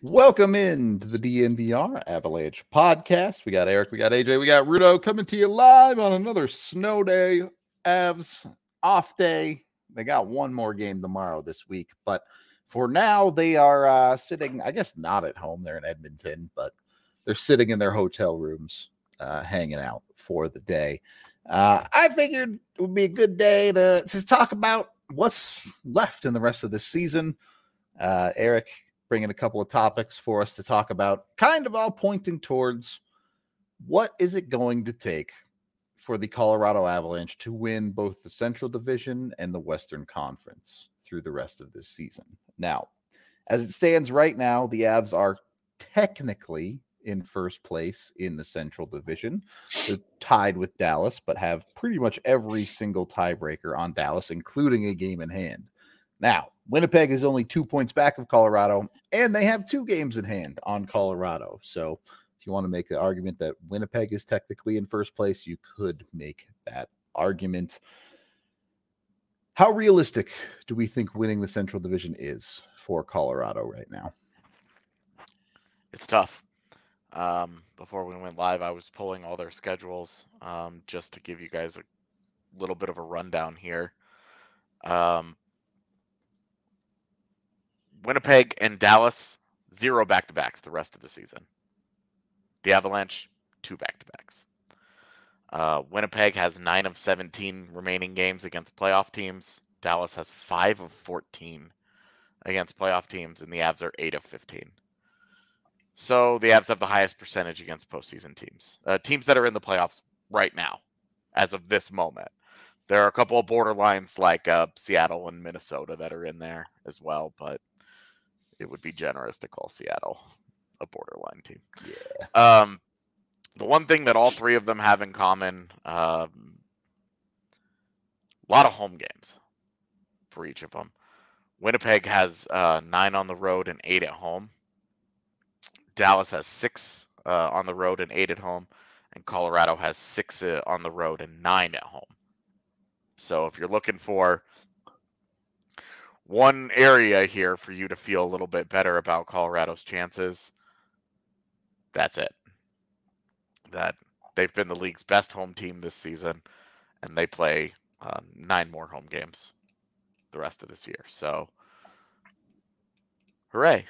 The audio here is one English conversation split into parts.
Welcome in to the DNVR Avalanche podcast. We got Eric, we got AJ, we got Rudo coming to you live on another snow day. Avs off day. They got one more game tomorrow this week, but for now they are sitting, I guess not at home. They're in Edmonton, but they're sitting in their hotel rooms, hanging out for the day. I figured it would be a good day to talk about what's left in the rest of the season. Eric bringing a couple of topics for us to talk about, kind of all pointing towards what is it going to take for the Colorado Avalanche to win both the Central Division and the Western Conference through the rest of this season. Now, as it stands right now, the Avs are technically in first place in the Central Division. They're tied with Dallas, but have pretty much every single tiebreaker on Dallas, including a game in hand. Now, Winnipeg is only 2 points back of Colorado, and they have 2 games in hand on Colorado. So if you want to make the argument that Winnipeg is technically in first place, you could make that argument. How realistic do we think winning the Central Division is for Colorado right now? It's tough. Before we went live, I was pulling all their schedules just to give you guys a little bit of a rundown here. Winnipeg and Dallas, 0 back-to-backs the rest of the season. The Avalanche, 2 back-to-backs. Winnipeg has 9 of 17 remaining games against playoff teams. Dallas has 5 of 14 against playoff teams, and the Avs are 8 of 15. So the Avs have the highest percentage against postseason teams. Teams that are in the playoffs right now, as of this moment. There are a couple of borderlines like Seattle and Minnesota that are in there as well, but it would be generous to call Seattle a borderline team. Yeah. The one thing that all 3 of them have in common, a lot of home games for each of them. Winnipeg has 9 on the road and 8 at home. Dallas has 6 on the road and 8 at home. And Colorado has 6 on the road and 9 at home. So if you're looking for one area here for you to feel a little bit better about Colorado's chances, that's it. That they've been the league's best home team this season, and they play 9 more home games the rest of this year. So, hooray.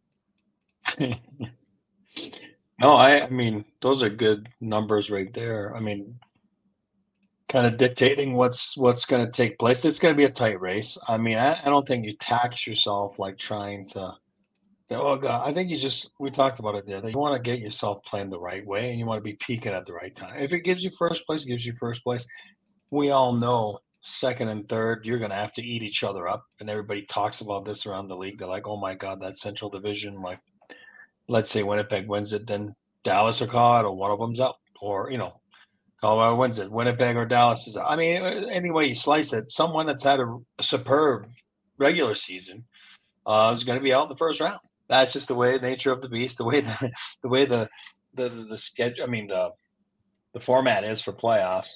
No, I mean, those are good numbers right there. I mean, kind of dictating what's going to take place. It's going to be a tight race. I mean, I don't think you tax yourself like trying to, oh God, I think we talked about it there, that you want to get yourself playing the right way and you want to be peaking at the right time. If it gives you first place, it gives you first place. We all know second and third, you're going to have to eat each other up. And everybody talks about this around the league. They're like, oh my God, that Central Division, like, let's say Winnipeg wins it, then Dallas or Colorado, one of them's out. Or, Colorado wins it, Winnipeg or Dallas is out. I mean, any way you slice it, someone that's had a superb regular season is going to be out in the first round. That's just the way, nature of the beast, the way the schedule. I mean, the format is for playoffs.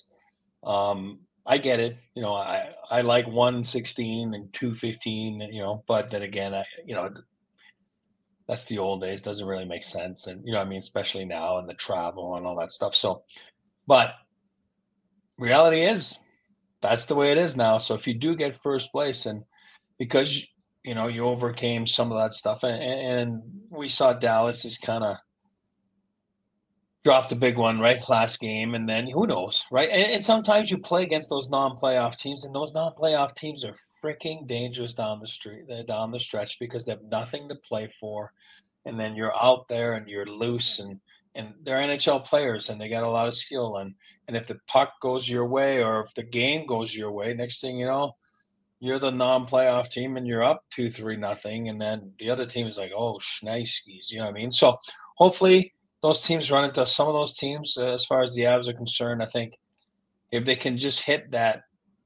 I get it. I like 116 and 215. But then again, that's the old days. Doesn't really make sense, and especially now and the travel and all that stuff. So, but reality is that's the way it is now. So if you do get first place, and because you overcame some of that stuff, and we saw Dallas is kind of dropped the big one right last game, and then who knows, right? And sometimes you play against those non-playoff teams, and those non-playoff teams are freaking dangerous down the stretch because they have nothing to play for, and then you're out there and you're loose, and they're NHL players and they got a lot of skill, and if the puck goes your way or if the game goes your way, next thing you know, you're the non-playoff team and you're up 2-3-0, and then the other team is like, oh, schneискis, you know what I mean? So hopefully those teams run into some of those teams. As far as the Avs are concerned, I think if they can just hit that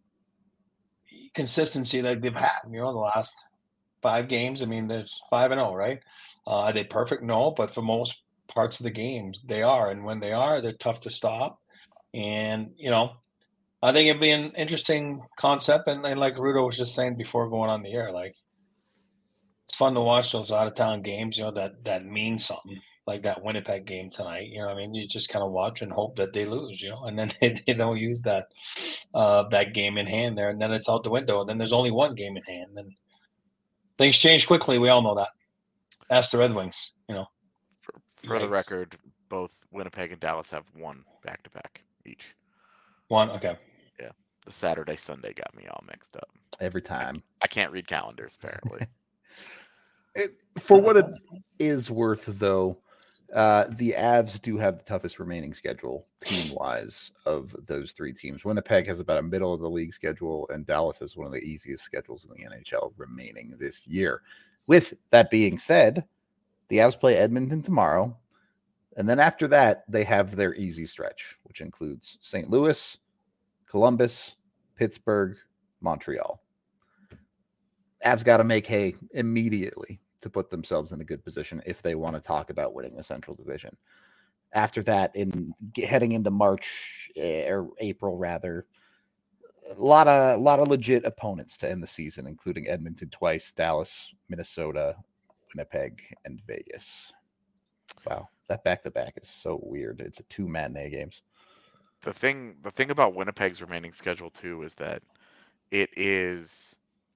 consistency like they've had, the last 5 games. I mean, there's 5-0, right? Are they perfect? No, but for most parts of the games, they are. And when they are, they're tough to stop. And, I think it'd be an interesting concept. And like Rudo was just saying before going on the air, like, It's fun to watch those out of town games, that mean something, like that Winnipeg game tonight. I mean, you just kind of watch and hope that they lose, and then they don't use that game in hand there, and then it's out the window, and then there's only one game in hand, and things change quickly. We all know that. Ask the Red Wings, For the Yikes. record, both Winnipeg and Dallas have one back-to-back each. One, okay. Yeah, the Saturday Sunday got me all mixed up. Every time. I can't read calendars apparently. For what it is worth, though, the Avs do have the toughest remaining schedule team-wise of those three teams. Winnipeg has about a middle of the league schedule, and Dallas has one of the easiest schedules in the NHL remaining this year. With that being said, the Avs play Edmonton tomorrow, and then after that, they have their easy stretch, which includes St. Louis, Columbus, Pittsburgh, Montreal. Avs got to make hay immediately to put themselves in a good position if they want to talk about winning the Central Division. After that, heading into March or April, rather, a lot of legit opponents to end the season, including Edmonton twice, Dallas, Minnesota, Winnipeg, and Vegas. Wow, that back-to-back is so weird. It's a 2 matinee games. The thing about Winnipeg's remaining schedule too is that it is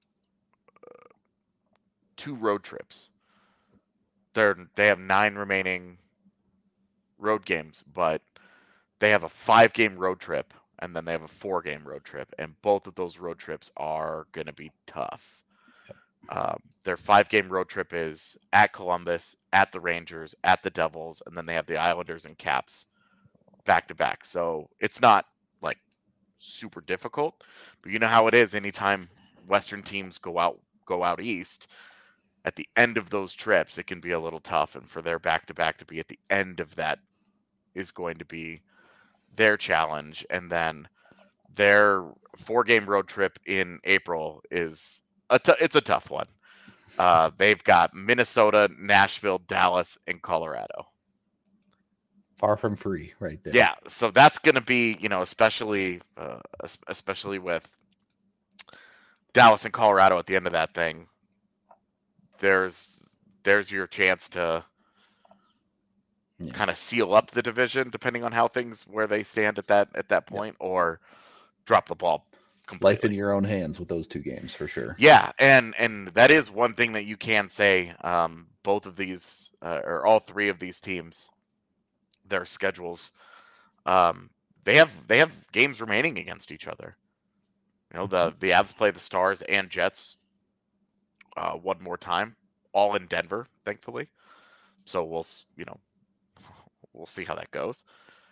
2 road trips. They have 9 remaining road games, but they have a 5-game road trip, and then they have a 4-game road trip, and both of those road trips are going to be tough. Their 5-game road trip is at Columbus, at the Rangers, at the Devils, and then they have the Islanders and Caps back to back. So it's not like super difficult, but you know how it is anytime Western teams go out east. At the end of those trips, it can be a little tough, and for their back-to-back to be at the end of that is going to be their challenge. And then their 4-game road trip in April is it's a tough one. They've got Minnesota, Nashville, Dallas, and Colorado. Far from free, right there. Yeah, so that's going to be, especially with Dallas and Colorado at the end of that thing. There's your chance to kind of seal up the division, depending on where they stand at that point, or drop the ball completely. Life in your own hands with those 2 games for sure. Yeah, and that is one thing that you can say. Both of these, or all 3 of these teams, their schedules, they have games remaining against each other. The Avs play the Stars and Jets one more time, all in Denver, thankfully. So we'll see how that goes.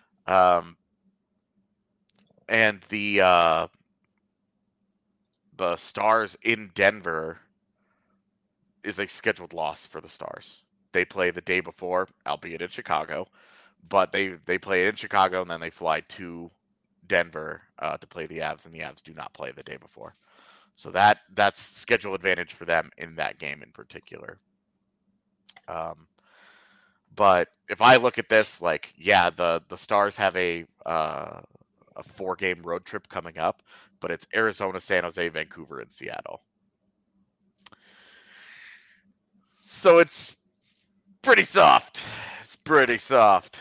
And the Stars in Denver is a scheduled loss for the Stars. They play the day before, albeit in Chicago, but they play in Chicago and then they fly to Denver to play the Avs, and the Avs do not play the day before. So that's schedule advantage for them in that game in particular. But if I look at this, the Stars have a 4-game road trip coming up, but it's Arizona, San Jose, Vancouver, and Seattle. So it's pretty soft. It's pretty soft.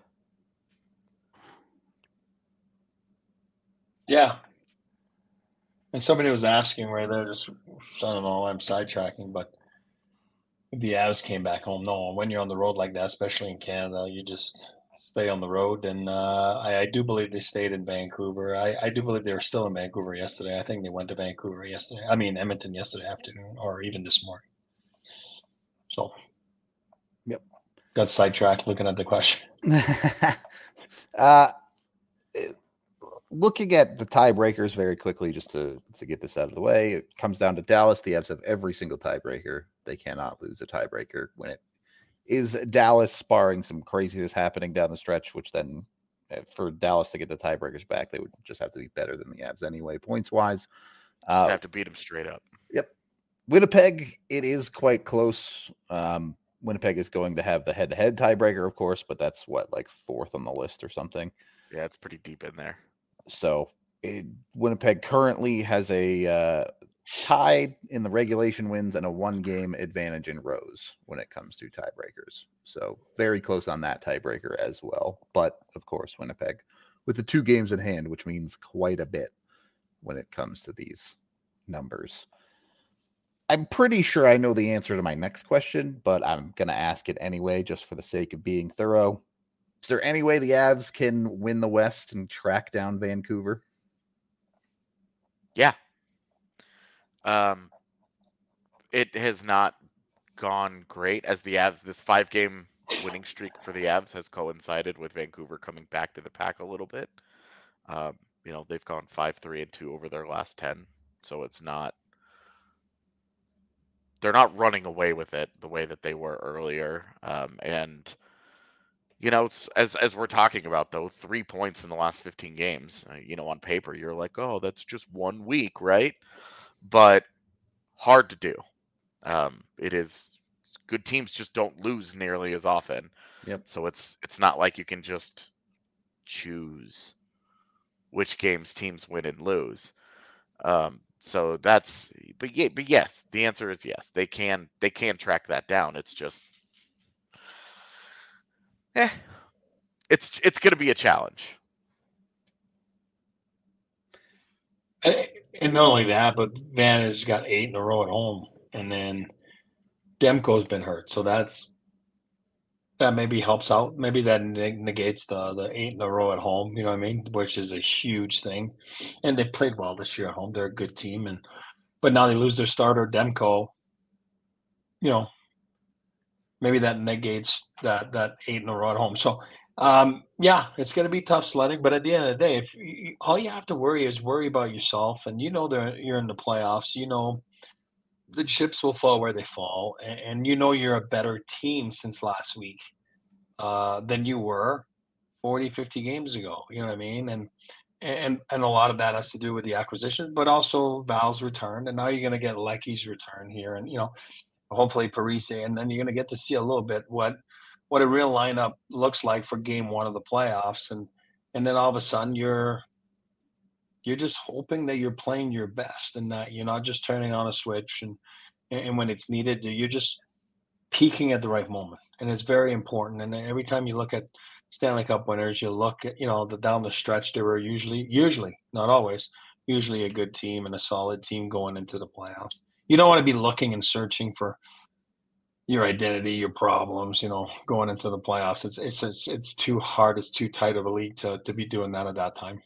Yeah. And somebody was asking where they're just, I don't know, I'm sidetracking, but the Avs came back home. No, when you're on the road like that, especially in Canada, you just stay on the road. And I do believe they stayed in Vancouver. I do believe they were still in Vancouver yesterday. I think they went to Vancouver yesterday. I mean, Edmonton yesterday afternoon, or even this morning. So, yep. Got sidetracked looking at the question. Looking at the tiebreakers very quickly, just to get this out of the way, it comes down to Dallas. The Avs have every single tiebreaker. They cannot lose a tiebreaker when it is Dallas, barring some craziness happening down the stretch, which then for Dallas to get the tiebreakers back, they would just have to be better than the Avs anyway, points-wise. Just have to beat them straight up. Yep. Winnipeg, it is quite close. Winnipeg is going to have the head-to-head tiebreaker, of course, but that's like 4th on the list or something. Yeah, it's pretty deep in there. So Winnipeg currently has a tied in the regulation wins and a 1-game advantage in rows when it comes to tiebreakers. So very close on that tiebreaker as well. But of course, Winnipeg with the 2 games in hand, which means quite a bit when it comes to these numbers. I'm pretty sure I know the answer to my next question, but I'm going to ask it anyway, just for the sake of being thorough. Is there any way the Avs can win the West and track down Vancouver? Yeah. It has not gone great as the Avs. This 5-game winning streak for the Avs has coincided with Vancouver coming back to the pack a little bit. They've gone 5-3-2 over their last 10, so it's not. They're not running away with it the way that they were earlier. And as we're talking about, though, 3 points in the last 15 games, on paper, you're like, oh, that's just 1 week, right? But hard to do. It is. Good teams just don't lose nearly as often. Yep. So it's not like you can just choose which games teams win and lose. So that's, but yes, the answer is yes. They can track that down. It's just, it's going to be a challenge. And not only that, but Van has got 8 in a row at home, and then Demko's been hurt, so that maybe helps out. Maybe that negates the 8 in a row at home. You know what I mean? Which is a huge thing. And they played well this year at home. They're a good team, but now they lose their starter Demko. Maybe that negates that 8 in a row at home. So it's going to be tough sledding. But at the end of the day, all you have to worry about yourself, and you're in the playoffs. The chips will fall where they fall, and you're a better team since last week than you were 40, 50 games ago. You know what I mean? And a lot of that has to do with the acquisition, but also Val's return, and now you're going to get Lecky's return here, and hopefully Parise, and then you're going to get to see a little bit what a real lineup looks like for game 1 of the playoffs, and then all of a sudden you're just hoping that you're playing your best and that you're not just turning on a switch and when it's needed, you're just peaking at the right moment. And it's very important. And every time you look at Stanley Cup winners, you look at, down the stretch, they were usually, not always, usually a good team and a solid team going into the playoffs. You don't want to be looking and searching for your identity, your problems, going into the playoffs. It's too hard. It's too tight of a league to be doing that at that time.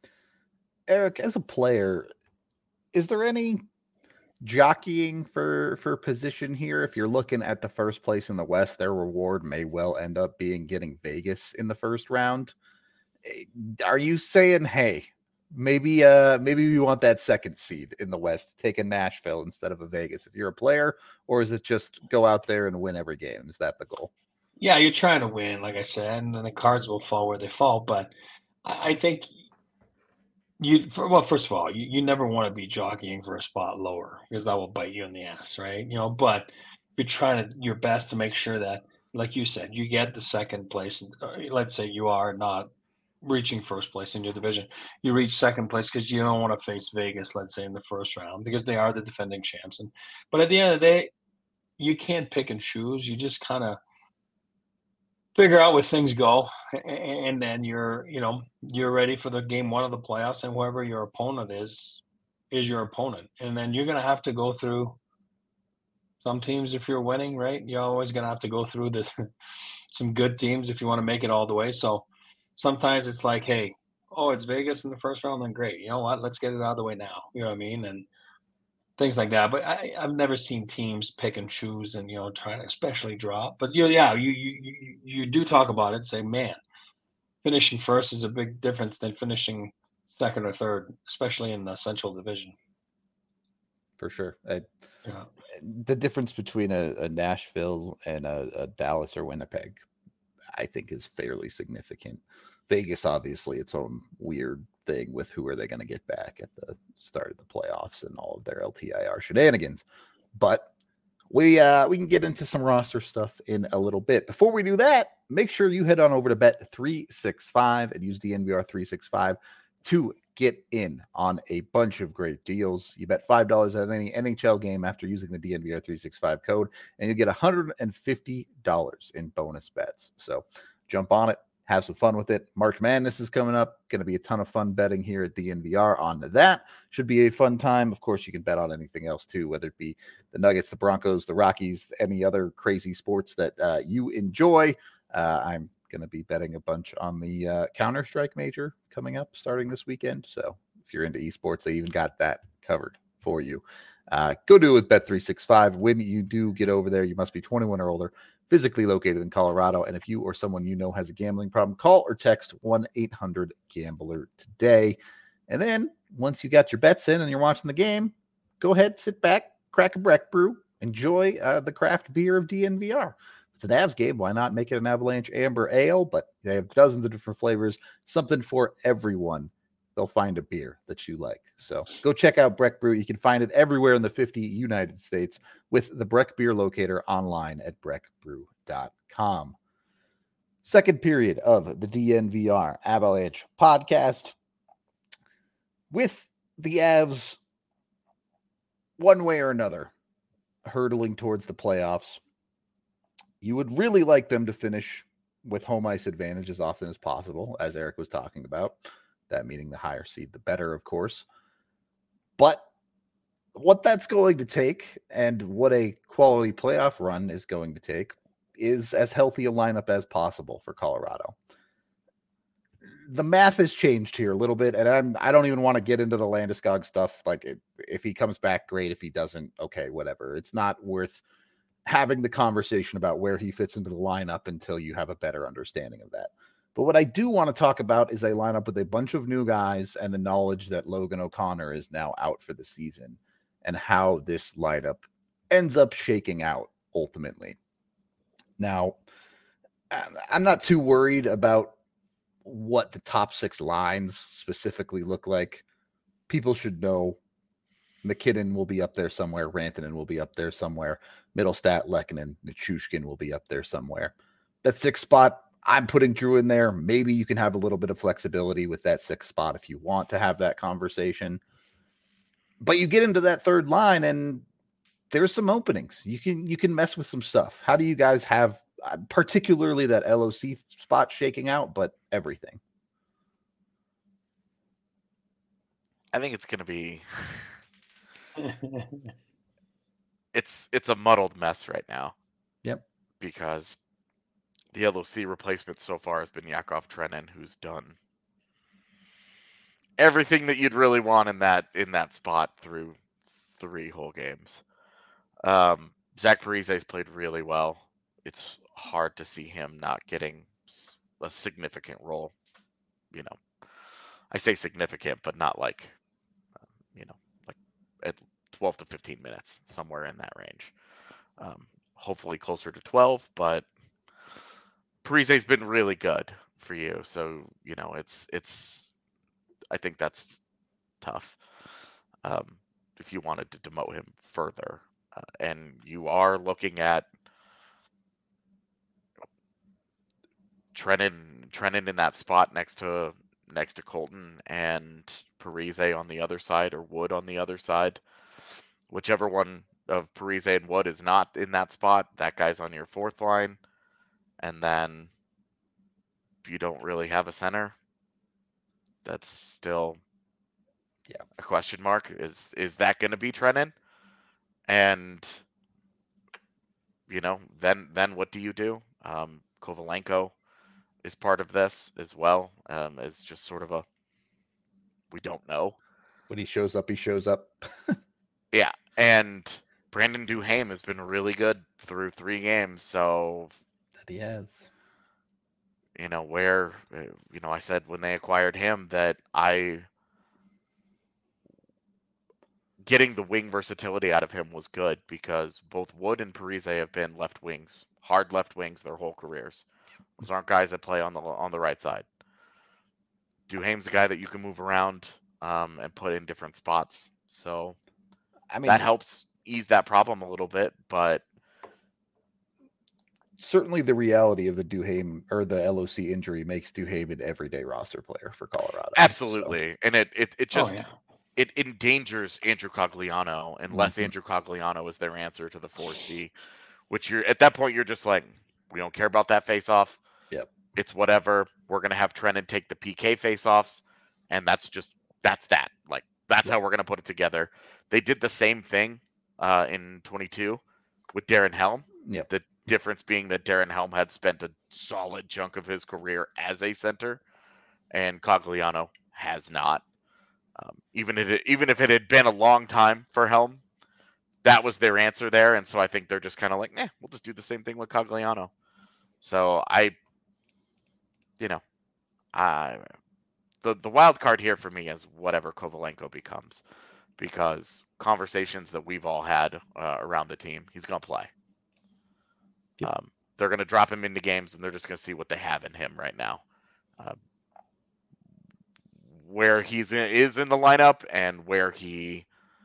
Eric, as a player, is there any jockeying for position here? If you're looking at the first place in the West, their reward may well end up being getting Vegas in the first round. Are you saying, hey, maybe we want that second seed in the West, take a Nashville instead of a Vegas if you're a player, or is it just go out there and win every game? Is that the goal? Yeah, you're trying to win, like I said, and then the cards will fall where they fall. But I think first of all, you never want to be jockeying for a spot lower because that will bite you in the ass, right? But you're trying your best to make sure that, like you said, you get the second place. Let's say you are not reaching first place in your division. You reach second place because you don't want to face Vegas, let's say, in the first round because they are the defending champs. But at the end of the day, you can't pick and choose. You just kind of figure out where things go, and then you're ready for the game 1 of the playoffs, and whoever your opponent is your opponent. And then you're going to have to go through some teams if you're winning, right? You're always going to have to go through some good teams if you want to make it all the way. So sometimes it's like, hey, it's Vegas in the first round, then great. You know what? Let's get it out of the way now. You know what I mean? And things like that. But I've never seen teams pick and choose and, try to especially drop. But you do talk about it, say, man, finishing first is a big difference than finishing second or third, especially in the Central Division. For sure. The difference between a Nashville and a Dallas or Winnipeg, I think, is fairly significant. Vegas, obviously, its own weird thing with who are they going to get back at the start of the playoffs and all of their LTIR shenanigans. But we can get into some roster stuff in a little bit. Before we do that, make sure you head on over to Bet365 and use the DNVR365 to get in on a bunch of great deals. You bet $5 at any NHL game after using the DNVR 365 code, and you get $150 in bonus bets. So jump on it, have some fun with it. March Madness is coming up. Going to be a ton of fun betting here at DNVR on that. Should be a fun time. Of course, you can bet on anything else too, whether it be the Nuggets, the Broncos, the Rockies, any other crazy sports that you enjoy. I'm going to be betting a bunch on the Counter-Strike major coming up starting this weekend. So if you're into esports, they even got that covered for you. Go do it with Bet365. When you do get over there, you must be 21 or older, physically located in Colorado. And if you or someone you know has a gambling problem, call or text 1-800-GAMBLER today. And then once you got your bets in and you're watching the game, go ahead, sit back, crack a Breck Brew, enjoy the craft beer of DNVR. It's an Avs game. Why not make it an Avalanche Amber Ale? But they have dozens of different flavors, something for everyone. They'll find a beer that you like. So go check out Breck Brew. You can find it everywhere in the 50 United States with the Breck Beer Locator online at breckbrew.com. Second period of the DNVR Avalanche podcast with the Avs one way or another hurtling towards the playoffs. You would really like them to finish with home ice advantage as often as possible, as Eric was talking about. That meaning the higher seed, the better, of course. But what that's going to take and what a quality playoff run is going to take is as healthy a lineup as possible for Colorado. The math has changed here a little bit, and I don't even want to get into the Landeskog stuff. Like, if he comes back, great. If he doesn't, okay, whatever. It's not worth having the conversation about where he fits into the lineup until you have a better understanding of that. But what I do want to talk about is a lineup with a bunch of new guys and the knowledge that Logan O'Connor is now out for the season and how this lineup ends up shaking out ultimately. Now, I'm not too worried about what the top six lines specifically look like. People should know McKinnon will be up there somewhere. Rantanen will be up there somewhere. Middlestat, Lehkonen, Nichushkin will be up there somewhere. That sixth spot, I'm putting Drew in there. Maybe you can have a little bit of flexibility with that sixth spot if you want to have that conversation. But you get into that third line and there's some openings. You can mess with some stuff. How do you guys have particularly that LOC spot shaking out, but everything? I think it's going to be it's a muddled mess right now. Yep. Because the LOC replacement so far has been Yakov Trenin, who's done everything that you'd really want in that spot through 3 whole games. Zach Parise's played really well. It's hard to see him not getting a significant role. You know, I say significant, but not like, like at 12 to 15 minutes, somewhere in that range. Hopefully closer to 12, but Parise's been really good for you. So, it's I think that's tough. If you wanted to demote him further. And you are looking at Trenin in that spot next to Colton and Parise on the other side, or Wood on the other side. Whichever one of Parise and Wood is not in that spot, that guy's on your fourth line. And then you don't really have a center. That's still a question mark. Is that going to be Trenin? And then what do you do? Kovalenko is part of this as well. It's just sort of we don't know. When he shows up, he shows up. Yeah, and Brandon Duhaime has been really good through 3 games. So that he has. Where I said when they acquired him that getting the wing versatility out of him was good, because both Wood and Parise have been left wings, hard left wings their whole careers. Those aren't guys that play on the right side. Duhaime's the guy that you can move around and put in different spots. So that helps ease that problem a little bit. But certainly the reality of the Duhaime or the LOC injury makes Duhaime an everyday roster player for Colorado. Absolutely. So. And it just yeah. it endangers Andrew Cogliano unless Mhm. Andrew Cogliano is their answer to the 4C, which you're at that point you're just like, we don't care about that face off. Yep. It's whatever. We're gonna have Trennan take the PK face offs, and that's that. Like that's how we're gonna put it together. They did the same thing in 22 with Darren Helm. Yep. The difference being that Darren Helm had spent a solid chunk of his career as a center, and Cogliano has not. Even if it had been a long time for Helm, that was their answer there, and so I think they're just kind of like, we'll just do the same thing with Cogliano. So the wild card here for me is whatever Kovalenko becomes, because conversations that we've all had around the team, he's gonna play. Yep. They're gonna drop him into games, and they're just gonna see what they have in him right now. Where is in the lineup and where he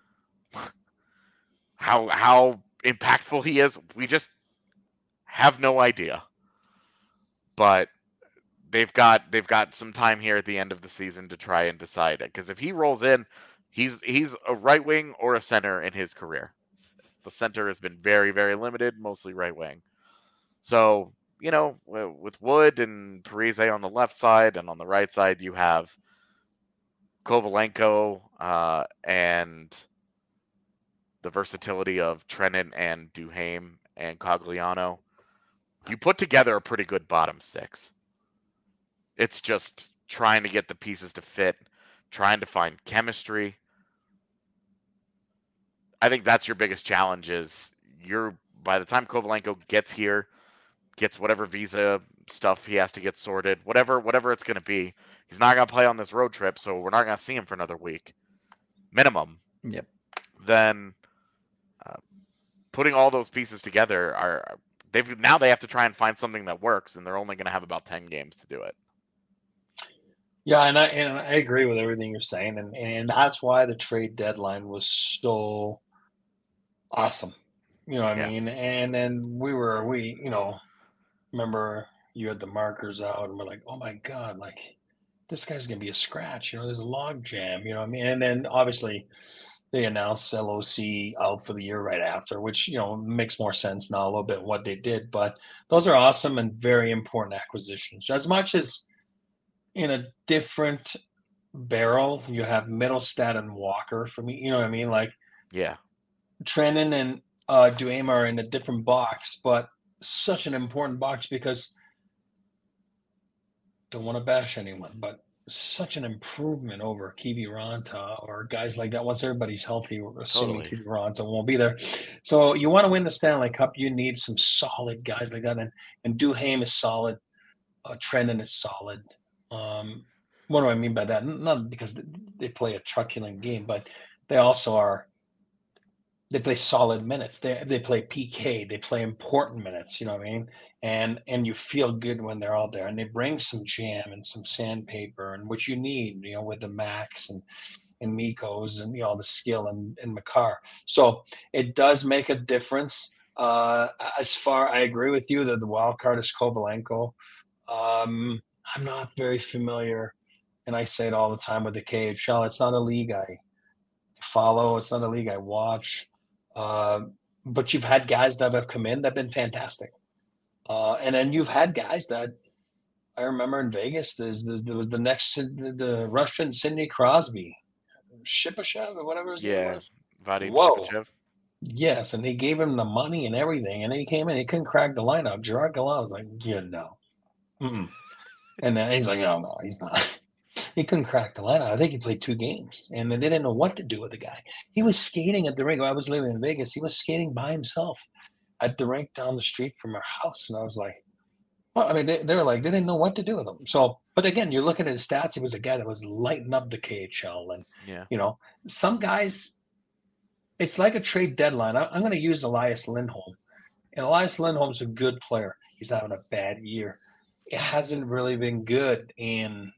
how impactful he is, we just have no idea. But they've got some time here at the end of the season to try and decide it, because if he rolls in, he's a right wing or a center in his career. The center has been very, very limited, mostly right wing. So, with Wood and Parise on the left side, and on the right side you have Kovalenko and the versatility of Trennan and Duhaime and Cogliano. You put together a pretty good bottom six. It's just trying to get the pieces to fit, trying to find chemistry. I think that's your biggest challenge. Is by the time Kovalenko gets here, gets whatever visa stuff he has to get sorted, whatever it's going to be, he's not going to play on this road trip, so we're not going to see him for another week, minimum. Yep. Then putting all those pieces together they have to try and find something that works, and they're only going to have about 10 games to do it. Yeah, and I agree with everything you're saying, and that's why the trade deadline was so awesome. You know what I mean? And then we remember you had the markers out, and we're like, oh my god, like this guy's gonna be a scratch. There's a log jam. You know what I mean? And then obviously they announced LOC out for the year right after, which makes more sense now a little bit what they did. But those are awesome and very important acquisitions. As much as in a different barrel, you have Middlestat and Walker for me. You know what I mean? Like, yeah, Trennan and Duhaime are in a different box, but such an important box because don't want to bash anyone, but such an improvement over Kiviranta or guys like that. Once everybody's healthy, assuming totally. Kiviranta won't be there. So you want to win the Stanley Cup, you need some solid guys like that. And Duhaime is solid. Trennan is solid. What do I mean by that? Not because they play a truculent game, but they also are. They play solid minutes. They play PK. They play important minutes. You know what I mean? And you feel good when they're out there. And they bring some jam and some sandpaper and what you need. With the Max and Mikos and the skill and Makar. So it does make a difference. I agree with you that the wild card is Kovalenko. I'm not very familiar, and I say it all the time with the KHL. It's not a league I follow. It's not a league I watch. But you've had guys that have come in that have been fantastic. And then you've had guys that I remember in Vegas, there was the Russian Sidney Crosby, Shipachyov or whatever his name was. Vadim Whoa. Shipachyov. Yes, and they gave him the money and everything, and then he came in, he couldn't crack the lineup. Gerard Gallant was like, no. Mm-mm. And then he's like, no, he's not. He couldn't crack the lineup. I think he played 2 games, and they didn't know what to do with the guy. He was skating at the rink. I was living in Vegas. He was skating by himself at the rink down the street from our house, and I was like, well, I mean, they were like, they didn't know what to do with him. So, but again, you're looking at his stats. He was a guy that was lighting up the KHL, and some guys. It's like a trade deadline. I'm going to use Elias Lindholm, and Elias Lindholm's a good player. He's having a bad year. It hasn't really been good in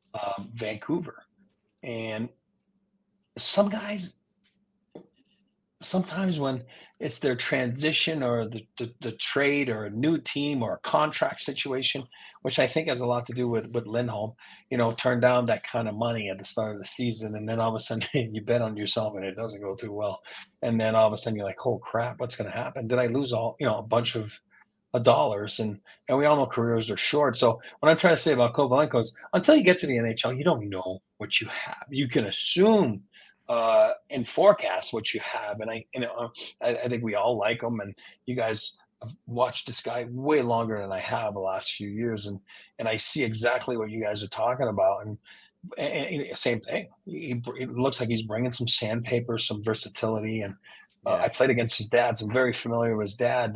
Vancouver. And some guys, sometimes when it's their transition or the trade or a new team or a contract situation, which I think has a lot to do with Lindholm, turn down that kind of money at the start of the season, and then all of a sudden you bet on yourself and it doesn't go too well, and then all of a sudden you're like, oh crap, what's going to happen? Did I lose a bunch of dollars? And we all know careers are short. So what I'm trying to say about Kovalenko is, until you get to the NHL, you don't know what you have. You can assume and forecast what you have. And I think we all like him. And you guys have watched this guy way longer than I have the last few years, and I see exactly what you guys are talking about. And same thing. It looks like he's bringing some sandpaper, some versatility. And I played against his dad, so I'm very familiar with his dad.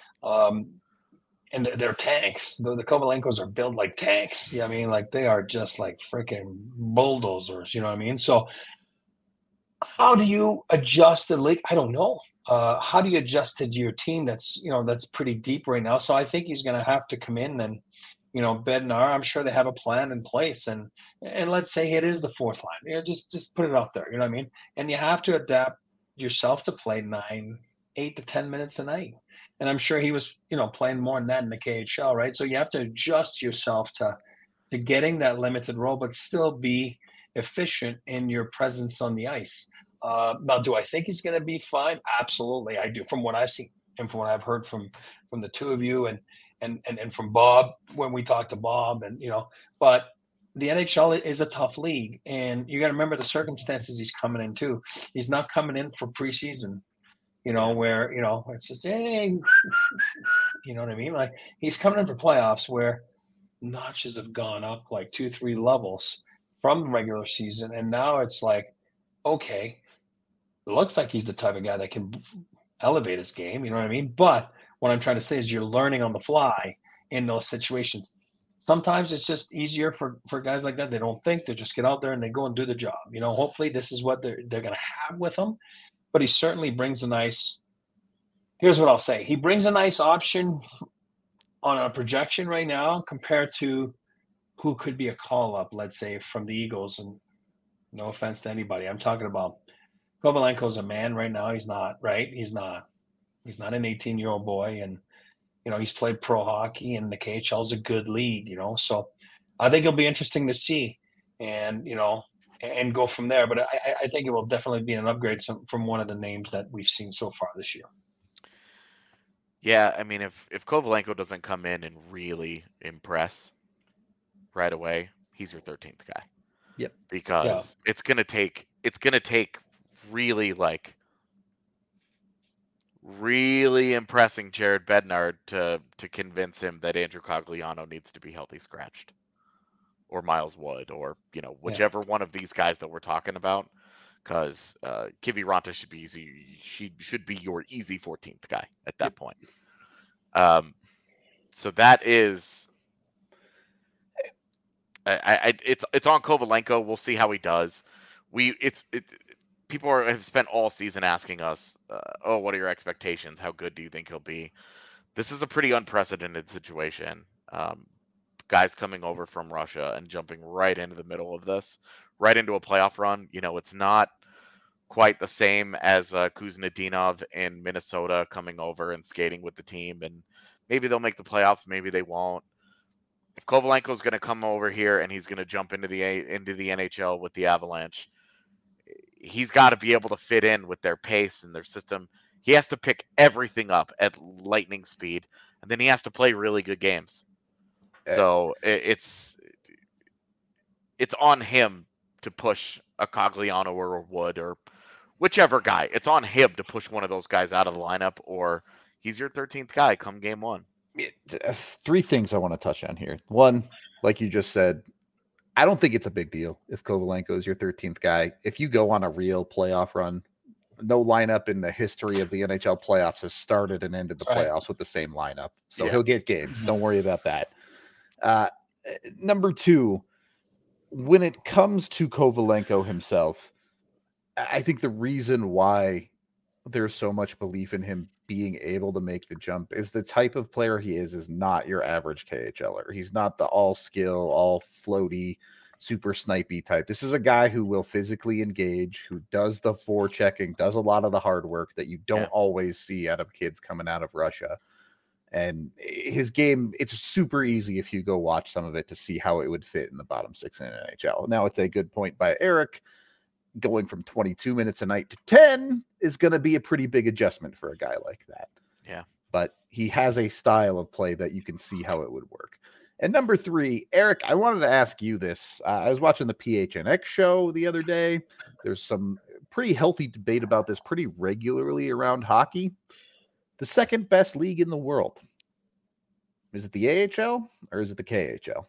And they're tanks. The Kovalenkos are built like tanks. I mean, like they are just like freaking bulldozers. You know what I mean? So how do you adjust the league? I don't know. How do you adjust to your team that's pretty deep right now? So I think he's going to have to come in and Bednar. I'm sure they have a plan in place, and let's say it is the fourth line. Just put it out there. You know what I mean? And you have to adapt yourself to play 8 to 10 minutes a night. And I'm sure he was playing more than that in the KHL, right? So you have to adjust yourself to getting that limited role, but still be efficient in your presence on the ice. Now, do I think he's going to be fine? Absolutely, I do. From what I've seen and from what I've heard from the two of you and from Bob when we talked to Bob, and but the NHL is a tough league, and you got to remember the circumstances he's coming into. He's not coming in for preseason, where it's just hey, you know what I mean? Like he's coming in for playoffs where notches have gone up like 2-3 levels from regular season, and now it's like, okay, it looks like he's the type of guy that can elevate his game. You know what I mean? But what I'm trying to say is you're learning on the fly in those situations. Sometimes it's just easier for guys like that. They don't think, they just get out there and they go and do the job. Hopefully this is what they're going to have with him. But he certainly brings a nice. Here's what I'll say: he brings a nice option on a projection right now compared to who could be a call up, let's say, from the Eagles. And no offense to anybody, I'm talking about Kovalenko's a man right now. He's not, right? He's not an 18-year-old boy, and he's played pro hockey, and the KHL is a good league. So I think it'll be interesting to see, and and go from there. But I think it will definitely be an upgrade from one of the names that we've seen so far this year. Yeah, I mean, if Kovalenko doesn't come in and really impress right away, he's your 13th guy. Yep. Because it's gonna take really impressing Jared Bednar to convince him that Andrew Cogliano needs to be healthy scratched, or Miles Wood, or whichever one of these guys that we're talking about. Because Kiviranta should be easy. She should be your easy 14th guy at that point. So that is, it's on Kovalenko. We'll see how he does. People have spent all season asking us, what are your expectations? How good do you think he'll be? This is a pretty unprecedented situation. Guys coming over from Russia and jumping right into the middle of this, right into a playoff run. It's not quite the same as Kuznetsov in Minnesota coming over and skating with the team, and maybe they'll make the playoffs, maybe they won't. If Kovalenko's going to come over here and he's going to jump into the NHL with the Avalanche, he's got to be able to fit in with their pace and their system. He has to pick everything up at lightning speed, and then he has to play really good games. So it's on him to push a Cogliano or a Wood or whichever guy. It's on him to push one of those guys out of the lineup, or he's your 13th guy come game one. Three things I want to touch on here. One, like you just said, I don't think it's a big deal if Kovalenko is your 13th guy. If you go on a real playoff run, no lineup in the history of the NHL playoffs has started and ended the playoffs with the same lineup. So he'll get games. Don't worry about that. Number two, when it comes to Kovalenko himself, I think the reason why there's so much belief in him being able to make the jump is the type of player he is not your average KHLer. He's not the all skill, all floaty super snipey type. This is a guy who will physically engage, who does the forechecking, does a lot of the hard work that you don't always see out of kids coming out of Russia. And his game, it's super easy if you go watch some of it to see how it would fit in the bottom six in NHL. Now, it's a good point by Eric. Going from 22 minutes a night to 10 is going to be a pretty big adjustment for a guy like that. Yeah. But he has a style of play that you can see how it would work. And number 3, Eric, I wanted to ask you this. I was watching the PHNX show the other day. There's some pretty healthy debate about this pretty regularly around hockey. The second best league in the world. Is it the AHL or is it the KHL?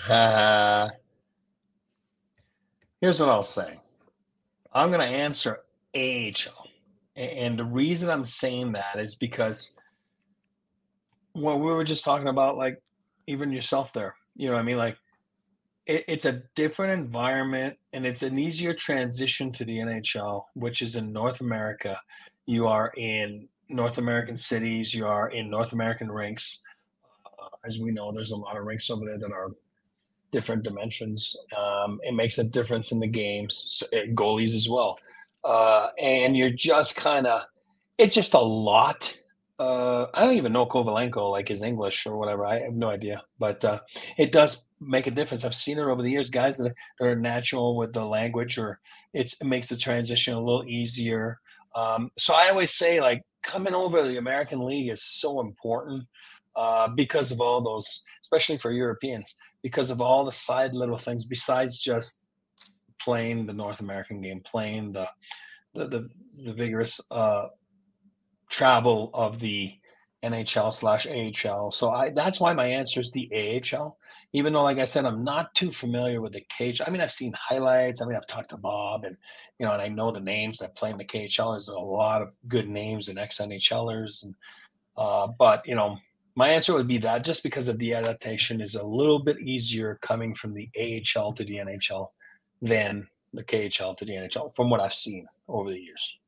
Here's what I'll say. I'm going to answer AHL. And the reason I'm saying that is because when we were just talking about, like, even yourself there, you know what I mean? Like, it's a different environment and it's an easier transition to the NHL, which is in North America. You are in North American cities. You are in North American rinks. As we know, there's a lot of rinks over there that are different dimensions. It makes a difference in the games, goalies as well. And you're just it's just a lot. I don't even know Kovalenko, like his English or whatever. I have no idea, but it does make a difference. I've seen it over the years, guys that are natural with the language, or it makes the transition a little easier. So I always say, like, coming over to the American League is so important because of all those, especially for Europeans, because of all the side little things besides just playing the North American game, playing the vigorous travel of the NHL/AHL. So that's why my answer is the AHL. Even though, like I said, I'm not too familiar with the KHL. I mean, I've seen highlights. I mean, I've talked to Bob, and and I know the names that play in the KHL. There's a lot of good names and ex-NHLers, and but my answer would be that, just because of the adaptation is a little bit easier coming from the AHL to the NHL than the KHL to the NHL, from what I've seen over the years.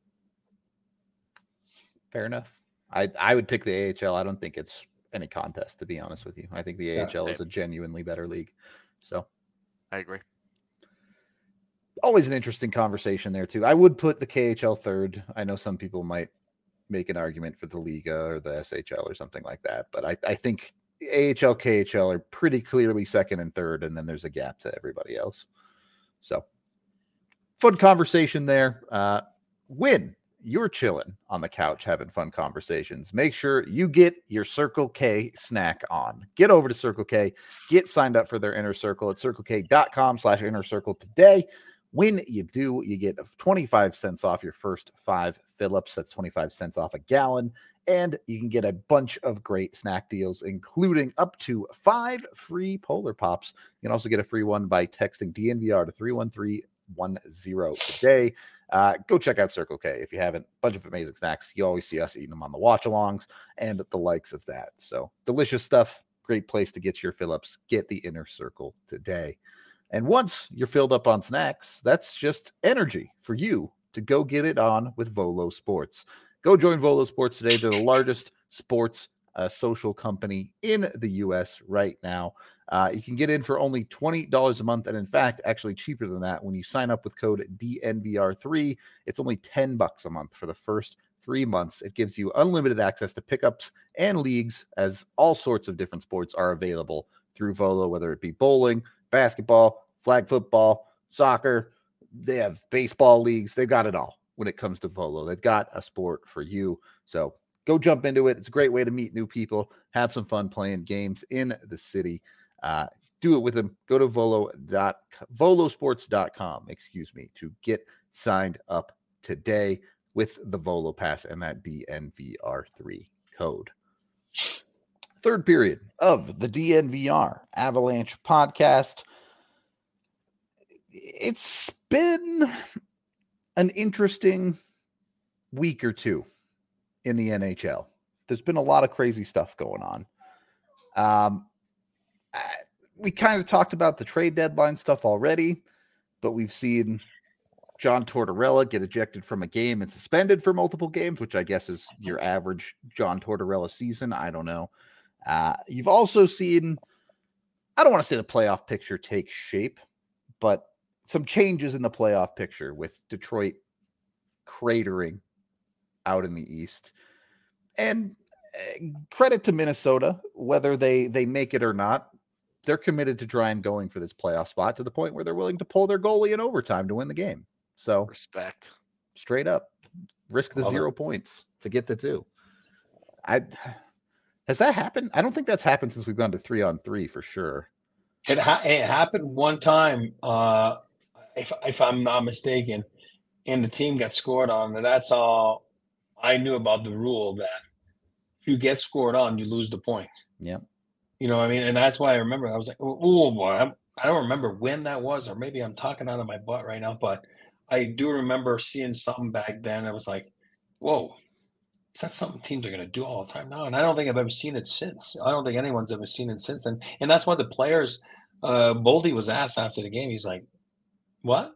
Fair enough. I would pick the AHL. I don't think it's any contest, to be honest with you. I think the AHL is a genuinely better league. So I agree. Always an interesting conversation there too. I would put the KHL third. I know some people might make an argument for the Liga or the SHL or something like that, but I think AHL, KHL are pretty clearly second and third, and then there's a gap to everybody else. So fun conversation there. When you're chilling on the couch having fun conversations, make sure you get your Circle K snack on. Get over to Circle K, get signed up for their Inner Circle at circlek.com/inner circle today. When you do, you get 25 cents off your first 5 fill-ups. That's 25 cents off a gallon. And you can get a bunch of great snack deals, including up to 5 free Polar Pops. You can also get a free one by texting DNVR to 31310 today. Go check out Circle K if you haven't. Bunch of amazing snacks. You always see us eating them on the watch-alongs and the likes of that. So delicious stuff. Great place to get your fill-ups. Get the Inner Circle today. And once you're filled up on snacks, that's just energy for you to go get it on with Volo Sports. Go join Volo Sports today. They're the largest sports social company in the U.S. right now. You can get in for only $20 a month. And in fact, actually cheaper than that when you sign up with code DNVR3. It's only $10 a month for the first 3 months. It gives you unlimited access to pickups and leagues, as all sorts of different sports are available through Volo, whether it be bowling, basketball, flag football, soccer. They have baseball leagues. They've got it all when it comes to Volo. They've got a sport for you. So go jump into it. It's a great way to meet new people, have some fun playing games in the city. Do it with them. Go to volosports.com, to get signed up today with the Volo Pass and that DNVR3 code. Third period of the DNVR Avalanche podcast. It's been an interesting week or two in the NHL. There's been a lot of crazy stuff going on. We kind of talked about the trade deadline stuff already, but we've seen John Tortorella get ejected from a game and suspended for multiple games, which I guess is your average John Tortorella season. I don't know. You've also seen, I don't want to say the playoff picture take shape, but some changes in the playoff picture with Detroit cratering out in the East. And credit to Minnesota, whether they make it or not, they're committed to try and going for this playoff spot to the point where they're willing to pull their goalie in overtime to win the game. So Respect. Straight up, risk the Love 0 points to get the 2. Has that happened? I don't think that's happened since we've gone to 3-on-3 for sure. It happened one time, if I'm not mistaken, and the team got scored on. And that's all I knew about the rule, that if you get scored on, you lose the point. Yeah. You know what I mean? And that's why I remember. I was like, oh boy, I don't remember when that was, or maybe I'm talking out of my butt right now, but I do remember seeing something back then. I was like, whoa, is that something teams are going to do all the time now? And I don't think I've ever seen it since. I don't think anyone's ever seen it since. And that's why the players, Boldy was asked after the game, he's like, what?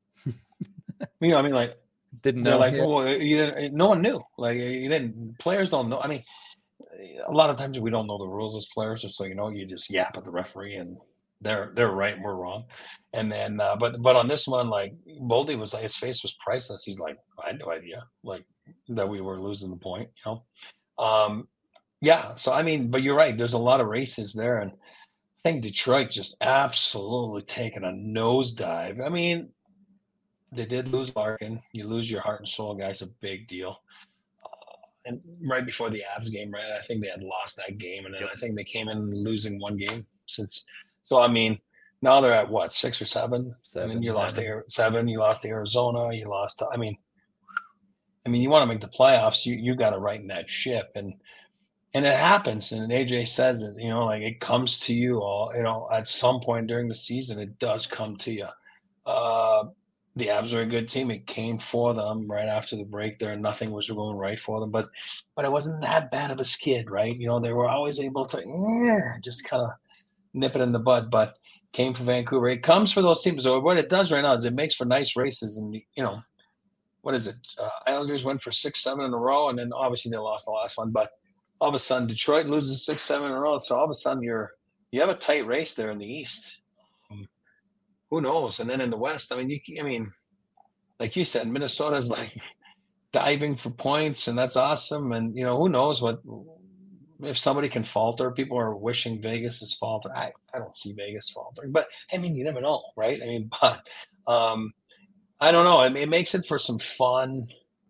You know, I mean, like, Didn't they're know. like, Yeah. well, no one knew. Like, you didn't, players don't know. I mean, a lot of times we don't know the rules as players, just so you know, you just yap at the referee and they're right and we're wrong. And then, but on this one, like, Boldy was like, his face was priceless. He's like, I had no idea, like, that we were losing the point, you know? Yeah. So, I mean, but you're right. There's a lot of races there. And I think Detroit just absolutely taken a nosedive. I mean, they did lose Larkin. You lose your heart and soul guy's a big deal. And right before the Avs game, right? I think they had lost that game, and then I think they came in losing one game since. So I mean, now they're at what, 6 or 7? And then you lost to 7. You lost to Arizona. You lost to. I mean, you want to make the playoffs. You got to right in that ship, and it happens. And AJ says it. You know, like, it comes to you all. You know, at some point during the season, it does come to you. The Avs are a good team. It came for them right after the break there. Nothing was going right for them, but it wasn't that bad of a skid, right? You know, they were always able to just kind of nip it in the bud, but came for Vancouver. It comes for those teams. So what it does right now is it makes for nice races. And, you know, what is it? Islanders went for 6-7 in a row, and then obviously they lost the last one. But all of a sudden, Detroit loses 6-7 in a row. So all of a sudden, you have a tight race there in the East. Who knows? And then in the West, I mean, like you said, Minnesota's like diving for points, and that's awesome. And, you know, who knows what, if somebody can falter. People are wishing Vegas is falter. I don't see Vegas faltering, but I mean, you never know, right? I mean, but I don't know. I mean, it makes it for some fun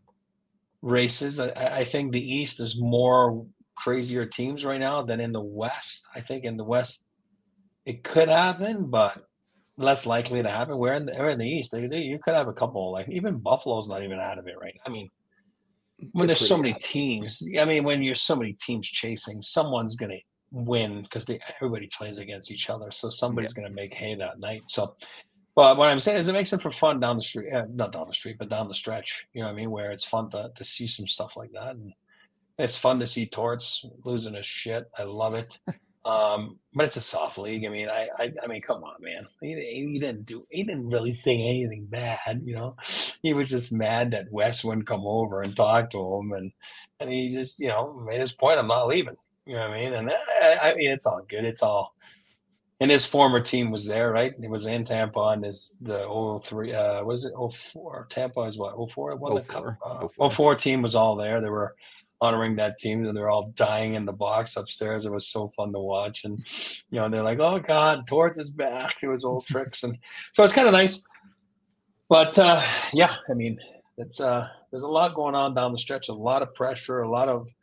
races. I think the East is more crazier teams right now than in the West. I think in the West it could happen, but less likely to happen. We're in the East. You could have a couple, like even Buffalo's not even out of it right. I mean, when there's so many teams, when you're so many teams chasing, someone's going to win because everybody plays against each other. So somebody's going to make hay that night. So, but what I'm saying is it makes it for fun down the street, not down the street, but down the stretch. You know what I mean? Where it's fun to see some stuff like that. And it's fun to see Torts losing his shit. I love it. But it's a soft league. I mean, come on, man. He didn't really say anything bad, you know. He was just mad that Wes wouldn't come over and talk to him, and he just, you know, made his point. I'm not leaving. You know what I mean? And I mean, it's all good. It's all. And his former team was there, right? It was in Tampa, and the 03. What is it? 04. Tampa is what? 04. Won the cup. 04 team was all there. They were honoring that team, and they're all dying in the box upstairs. It was so fun to watch, and you know, they're like, "Oh God, Torts is back." It was old tricks, and so it's kind of nice. But yeah, I mean, it's there's a lot going on down the stretch, a lot of pressure, a lot of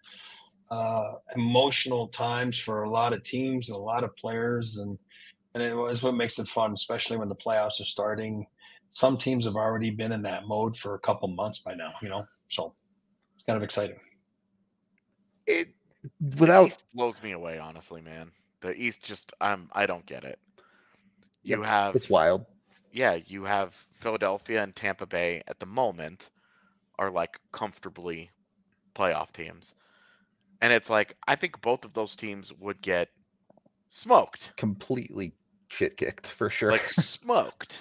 emotional times for a lot of teams and a lot of players, and it was what makes it fun, especially when the playoffs are starting. Some teams have already been in that mode for a couple months by now, you know, so it's kind of exciting. The East blows me away, honestly, man. The East just I don't get it. It's wild. Yeah, you have Philadelphia and Tampa Bay at the moment are like comfortably playoff teams. And it's like, I think both of those teams would get smoked. Completely shit kicked for sure. Like smoked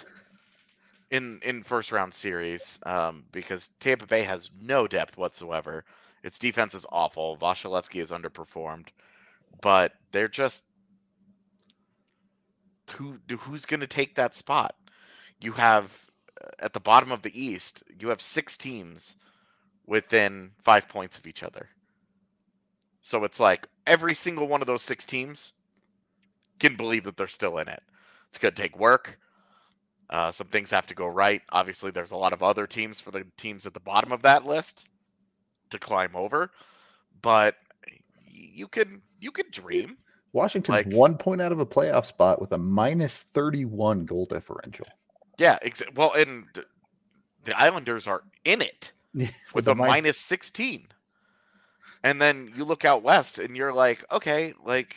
in first round series, because Tampa Bay has no depth whatsoever. Its defense is awful. Vasilevsky is underperformed, but they're just who's going to take that spot? you have at the bottom of the East, you have 6 teams within 5 points of each other. So it's like every single one of those 6 teams can believe that they're still in it. It's going to take work. Some things have to go right. Obviously, there's a lot of other teams for the teams at the bottom of that list to climb over, but you can dream. Washington's 1 point out of a playoff spot with a minus 31 goal differential. Yeah, well, and the Islanders are in it with a minus 16. And then you look out west and you're like, okay, like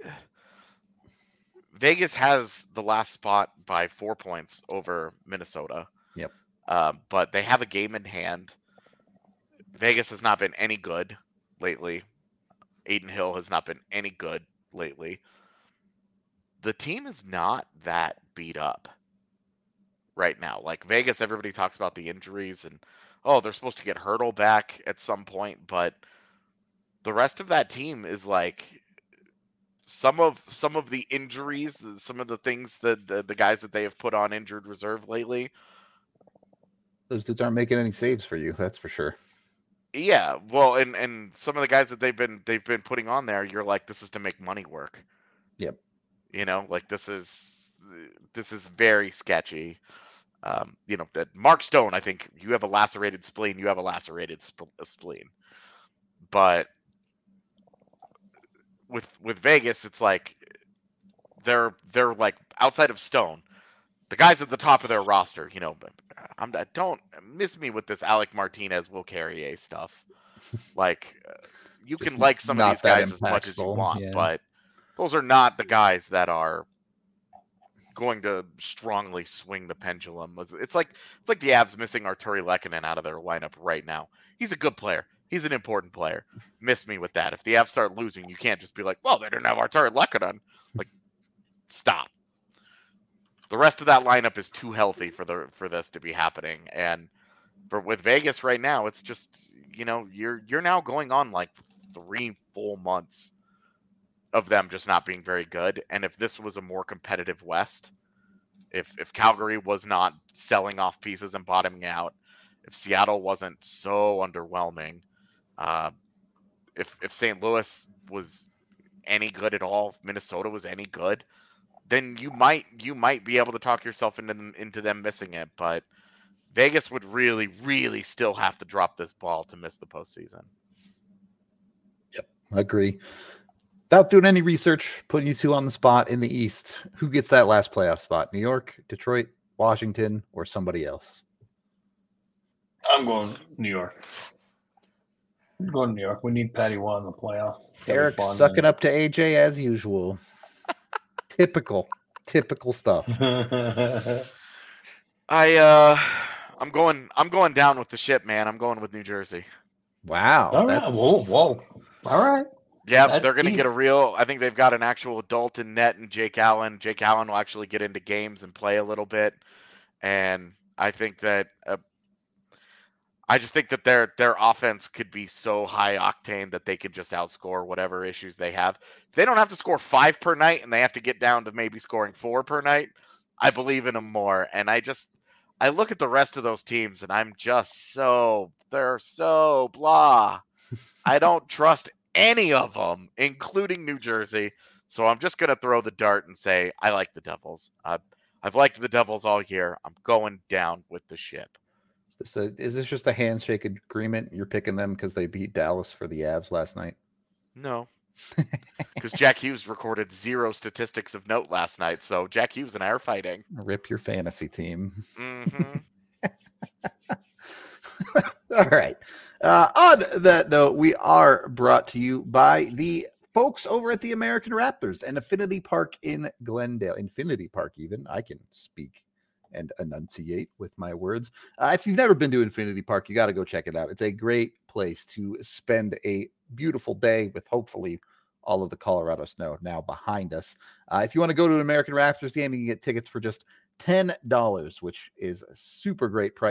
Vegas has the last spot by 4 points over Minnesota. Yep. But they have a game in hand. Vegas has not been any good lately. Adin Hill has not been any good lately. The team is not that beat up right now. Like Vegas, everybody talks about the injuries and, oh, they're supposed to get Hurdle back at some point, but the rest of that team is like some of the injuries, some of the things that the guys that they have put on injured reserve lately. Those dudes aren't making any saves for you, that's for sure. Yeah, well, and some of the guys that they've been putting on there, you're like, this is to make money work. Yep. You know, like this is very sketchy. You know, Mark Stone, I think you have a lacerated spleen. You have a lacerated spleen. But with Vegas, it's like they're like outside of Stone, the guys at the top of their roster. You know, don't miss me with this Alec Martinez, Will Carrier stuff. Like you can like some of these guys as much as you want, but those are not the guys that are going to strongly swing the pendulum. It's like the Avs missing Arturi Lehkonen out of their lineup right now. He's a good player. He's an important player. Miss me with that. If the Avs start losing, you can't just be like, well, they didn't have Arturi Lehkonen. Like, stop. The rest of that lineup is too healthy for this to be happening. And with Vegas right now, it's just, you know, you're now going on like 3 full months of them just not being very good. And if this was a more competitive West, if Calgary was not selling off pieces and bottoming out, if Seattle wasn't so underwhelming, if St. Louis was any good at all, if Minnesota was any good, then you might be able to talk yourself into them missing it. But Vegas would really, really still have to drop this ball to miss the postseason. Yep, I agree. Without doing any research, putting you two on the spot in the East, who gets that last playoff spot? New York, Detroit, Washington, or somebody else? I'm going New York. I'm going New York. We need Patty One in the playoff. Eric sucking up to AJ as usual. Typical stuff. I'm going down with the ship, man. I'm going with New Jersey. Wow. All right. Whoa. All right. Yeah, they're going to get I think they've got an actual adult in net and Jake Allen. Jake Allen will actually get into games and play a little bit. And I think that I just think that their offense could be so high octane that they could just outscore whatever issues they have. If they don't have to score 5 per night and they have to get down to maybe scoring 4 per night, I believe in them more. And I look at the rest of those teams and I'm just they're so blah. I don't trust any of them, including New Jersey. So I'm just going to throw the dart and say I like the Devils. I've liked the Devils all year. I'm going down with the ship. Is this just a handshake agreement? You're picking them because they beat Dallas for the Avs last night? No. Because Jack Hughes recorded 0 statistics of note last night. So Jack Hughes and I are fighting. Rip your fantasy team. Mm-hmm. All right. On that note, we are brought to you by the folks over at the American Raptors and Affinity Park in Glendale. Infinity Park, even. I can speak and enunciate with my words. If you've never been to Infinity Park, you got to go check it out. It's a great place to spend a beautiful day with hopefully all of the Colorado snow now behind us. If you want to go to an American Raptors game, you can get tickets for just $10, which is a super great price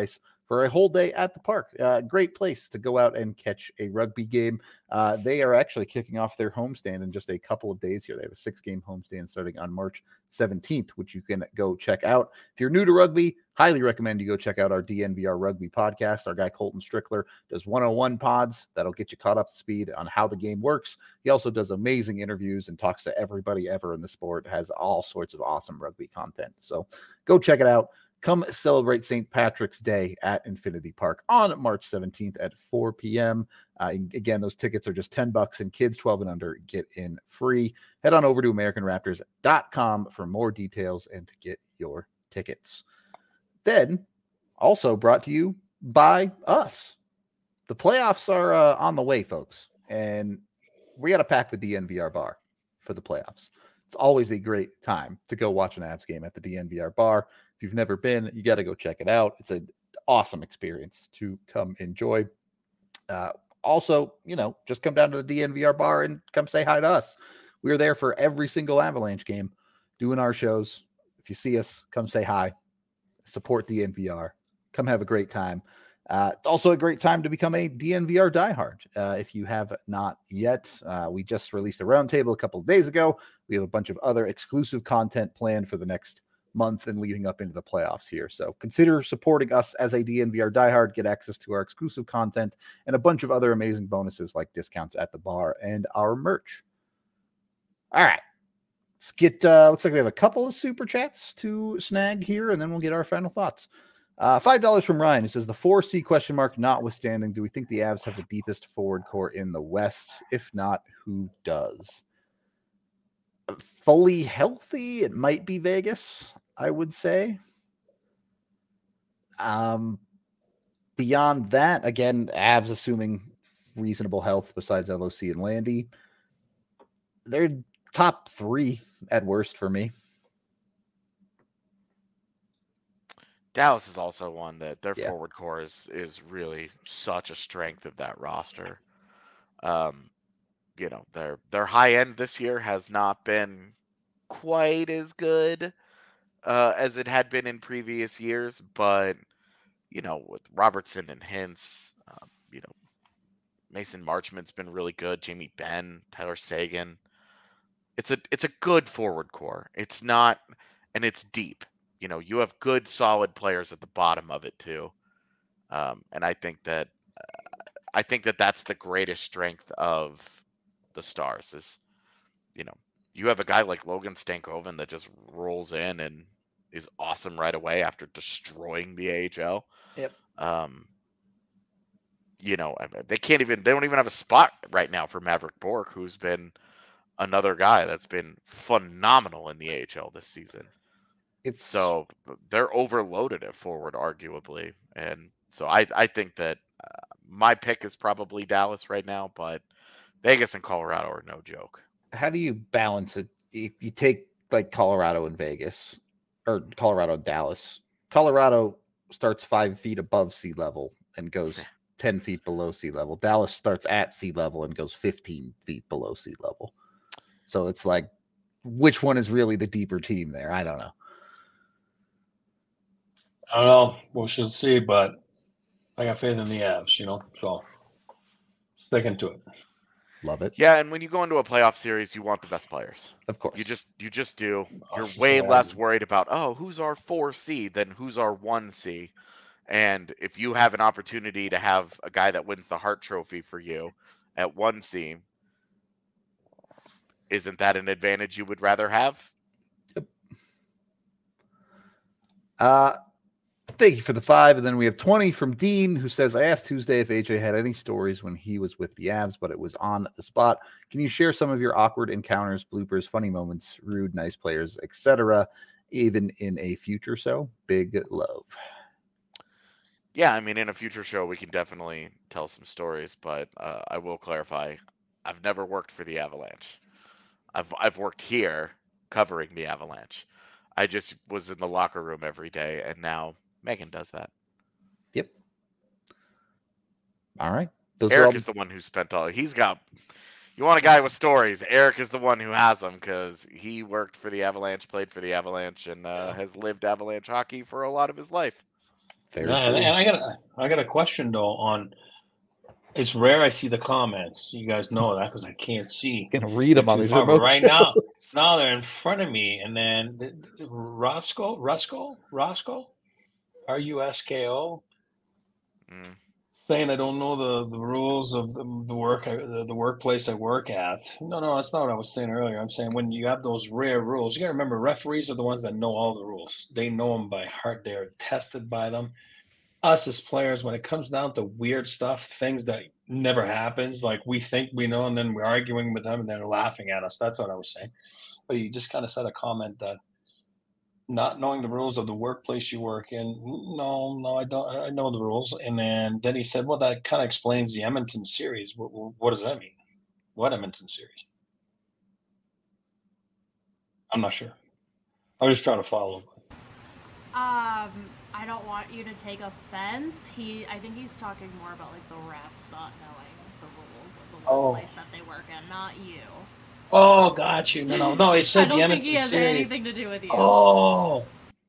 for a whole day at the park. Great place to go out and catch a rugby game. They are actually kicking off their homestand in just a couple of days here. They have a 6-game homestand starting on March 17th, which you can go check out. If you're new to rugby, highly recommend you go check out our DNVR Rugby podcast. Our guy Colton Strickler does 101 pods that'll get you caught up to speed on how the game works. He also does amazing interviews and talks to everybody ever in the sport, has all sorts of awesome rugby content. So go check it out. Come celebrate St. Patrick's Day at Infinity Park on March 17th at 4 p.m. Again, those tickets are just $10, and kids 12 and under get in free. Head on over to AmericanRaptors.com for more details and to get your tickets. Then, also brought to you by us. The playoffs are on the way, folks, and we got to pack the DNVR bar for the playoffs. It's always a great time to go watch an Avs game at the DNVR bar. If you've never been, you got to go check it out. It's an awesome experience to come enjoy. Also, just come down to the DNVR bar and come say hi to us. We're there for every single Avalanche game doing our shows. If you see us, come say hi. Support DNVR. Come have a great time. It's also a great time to become a DNVR diehard. If you have not yet, we just released a roundtable a couple of days ago. We have a bunch of other exclusive content planned for the next month and leading up into the playoffs here. So consider supporting us as a DNVR diehard, get access to our exclusive content and a bunch of other amazing bonuses like discounts at the bar and our merch. All right. Let's get, looks like we have a couple of super chats to snag here, and then we'll get our final thoughts. $5 from Ryan. It says the 4C question mark notwithstanding, do we think the Avs have the deepest forward core in the West? If not, who does? Fully healthy, it might be Vegas, I would say. Beyond that, again, Avs assuming reasonable health besides LOC and Landy, they're top 3 at worst for me. Dallas is also one that their forward core is really such a strength of that roster. Their high end this year has not been quite as good as it had been in previous years, but with Robertson and Hintz, Mason Marchment's been really good. Jamie Benn, Tyler Seguin. It's a good forward core. It's not, and it's deep. You have good, solid players at the bottom of it too, and I think that that's the greatest strength of the Stars is, you have a guy like Logan Stankoven that just rolls in and is awesome right away after destroying the AHL. Yep. They don't even have a spot right now for Maverick Bourque, who's been another guy that's been phenomenal in the AHL this season. So they're overloaded at forward, arguably. And so I think that my pick is probably Dallas right now, but Vegas and Colorado are no joke. How do you balance it? If you take like Colorado and Vegas, or Colorado and Dallas, Colorado starts 5 feet above sea level and goes 10 feet below sea level. Dallas starts at sea level and goes 15 feet below sea level. So it's like, which one is really the deeper team there? I don't know. I don't know. We should see, but I got faith in the Avs, so sticking to it. Love it. Yeah, and when you go into a playoff series, you want the best players. Of course. You just do. You're way less worried about, who's our 4C than who's our 1C. And if you have an opportunity to have a guy that wins the Hart Trophy for you at 1C, isn't that an advantage you would rather have? Yep. Thank you for the 5. And then we have 20 from Dean, who says, I asked Tuesday if AJ had any stories when he was with the Avs, but it was on the spot. Can you share some of your awkward encounters, bloopers, funny moments, rude, nice players, etc., even in a future show? Big love. Yeah, I mean, in a future show, we can definitely tell some stories, but I will clarify, I've never worked for the Avalanche. I've worked here covering the Avalanche. I just was in the locker room every day, and now Megan does that. Yep. All right. Eric is the one who spent you want a guy with stories. Eric is the one who has them because he worked for the Avalanche, played for the Avalanche, and has lived Avalanche hockey for a lot of his life. Very Yeah, true. and I got a question though on. It's rare I see the comments. You guys know that because I can't see. Gonna read them on these But remote right shows. now they're in front of me, and then Roscoe, Rusko, Mm. saying I don't know the rules of the workplace I work at. No, that's not what I was saying earlier. I'm saying when you have those rare rules, you got to remember referees are the ones that know all the rules. They know them by heart. They're tested by them. Us as players, when it comes down to weird stuff, things that never happens, like we think we know, and then we're arguing with them, and they're laughing at us. That's what I was saying. But you just kind of said a comment that not knowing the rules of the workplace you work in. No, I don't. I know the rules. And then he said, well, that kind of explains the Edmonton series. What does that mean? What Edmonton series? I'm not sure. I was just trying to follow. I don't want you to take offense. I think he's talking more about like the refs not knowing the rules of the workplace that they work in, not you. Oh, got you. No. He said I don't the think Edmonton he has series. anything to do with you. Oh,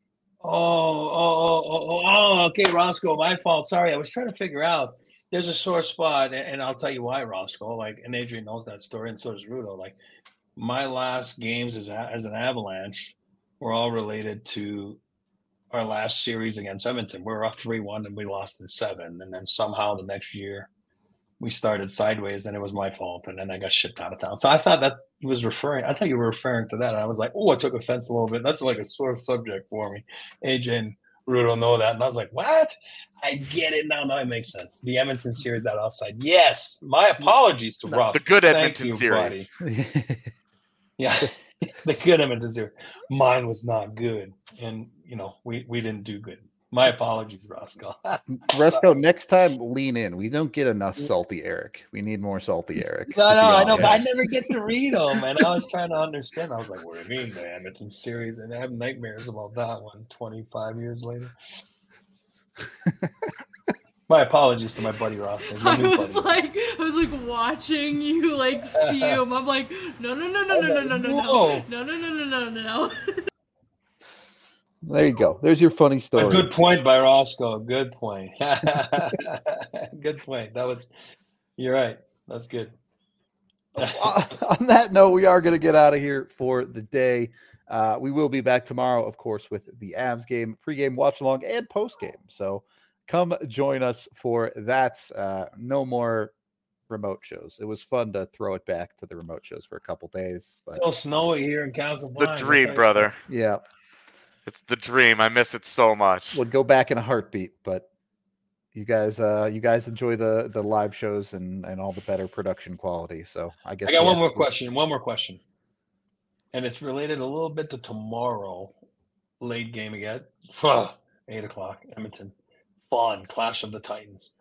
okay, Roscoe, my fault. Sorry, I was trying to figure out. There's a sore spot, and I'll tell you why, Roscoe. Like, and Adrian knows that story, and so does Rudo. Like, my last games as an Avalanche were all related to our last series against Edmonton. We were up 3-1, and we lost in 7. And then somehow the next year we started sideways, and it was my fault, and then I got shipped out of town. So I thought that he was referring. I thought you were referring to that. And I was like, oh, I took offense a little bit. That's like a sore subject for me. AJ and Rudo know that, and I was like, what? I get it now. Now it makes sense. The Edmonton series, that offside. Yes, my apologies to Rob. The good Thank Edmonton you, series. buddy. Yeah, the good Edmonton series. Mine was not good, and we didn't do good. My apologies, Roscoe. Roscoe, next time lean in. We don't get enough salty Eric. We need more salty Eric. No, I know, but I never get to read them, and I was trying to understand. I was like, what do you mean, the Edmonton series? And I have nightmares about that one 25 years later. My apologies to my buddy Roscoe. I was like watching you like fume. I'm like, no. There you go. There's your funny story. A good point by Roscoe. Good point. Good point. You're right. That's good. On that note, we are going to get out of here for the day. We will be back tomorrow, of course, with the Avs game, pregame, watch along, and postgame. So come join us for that. No more remote shows. It was fun to throw it back to the remote shows for a couple days. But still snowy here in Casablanca. The dream, brother. Yeah. It's the dream. I miss it so much. Would go back in a heartbeat, but you guys enjoy the live shows and all the better production quality. So I guess I got one more question. And it's related a little bit to tomorrow. Late game again. 8:00, Edmonton. Fun. Clash of the Titans.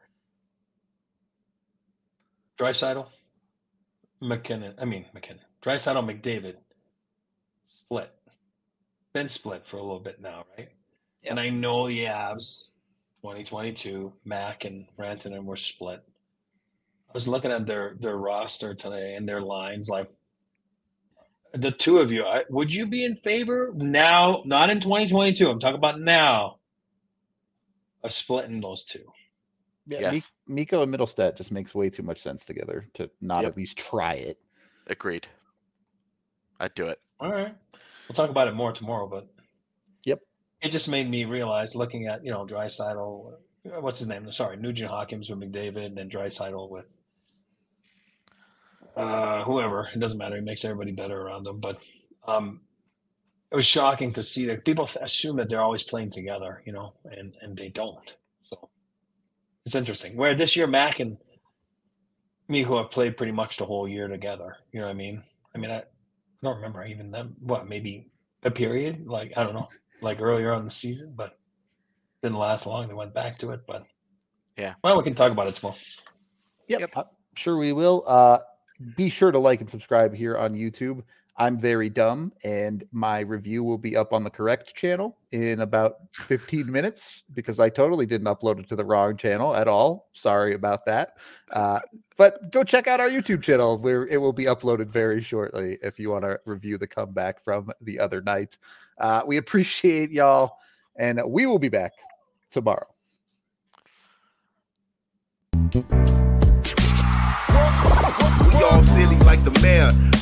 Draisaitl. McKinnon. Draisaitl, McDavid. Split. Been split for a little bit now, right? Yep. And I know the Avs, 2022, Mac and Rantanen were split. I was looking at their roster today and their lines. Like, the two of you, would you be in favor now, not in 2022, I'm talking about now, of splitting those two? Yeah, yes. Mikko and Middlestat just makes way too much sense together to not at least try it. Agreed. I'd do it. All right. We'll talk about it more tomorrow, but yep, it just made me realize, looking at Draisaitl, what's his name? Sorry, Nugent Hopkins with McDavid, and then Draisaitl with whoever. It doesn't matter. He makes everybody better around him. But it was shocking to see that people assume that they're always playing together, and they don't. So it's interesting. Where this year, Mac and Mikko have played pretty much the whole year together. You know what I mean? I don't remember even them. Maybe a period? Like, I don't know. Like earlier on the season, but didn't last long. They went back to it, but yeah. Well, we can talk about it tomorrow. Yep. I'm sure we will. Be sure to like and subscribe here on YouTube. I'm very dumb, and my review will be up on the correct channel in about 15 minutes because I totally didn't upload it to the wrong channel at all. Sorry about that. But go check out our YouTube channel where it will be uploaded very shortly if you want to review the comeback from the other night. We appreciate y'all, and we will be back tomorrow. We all silly like the mayor.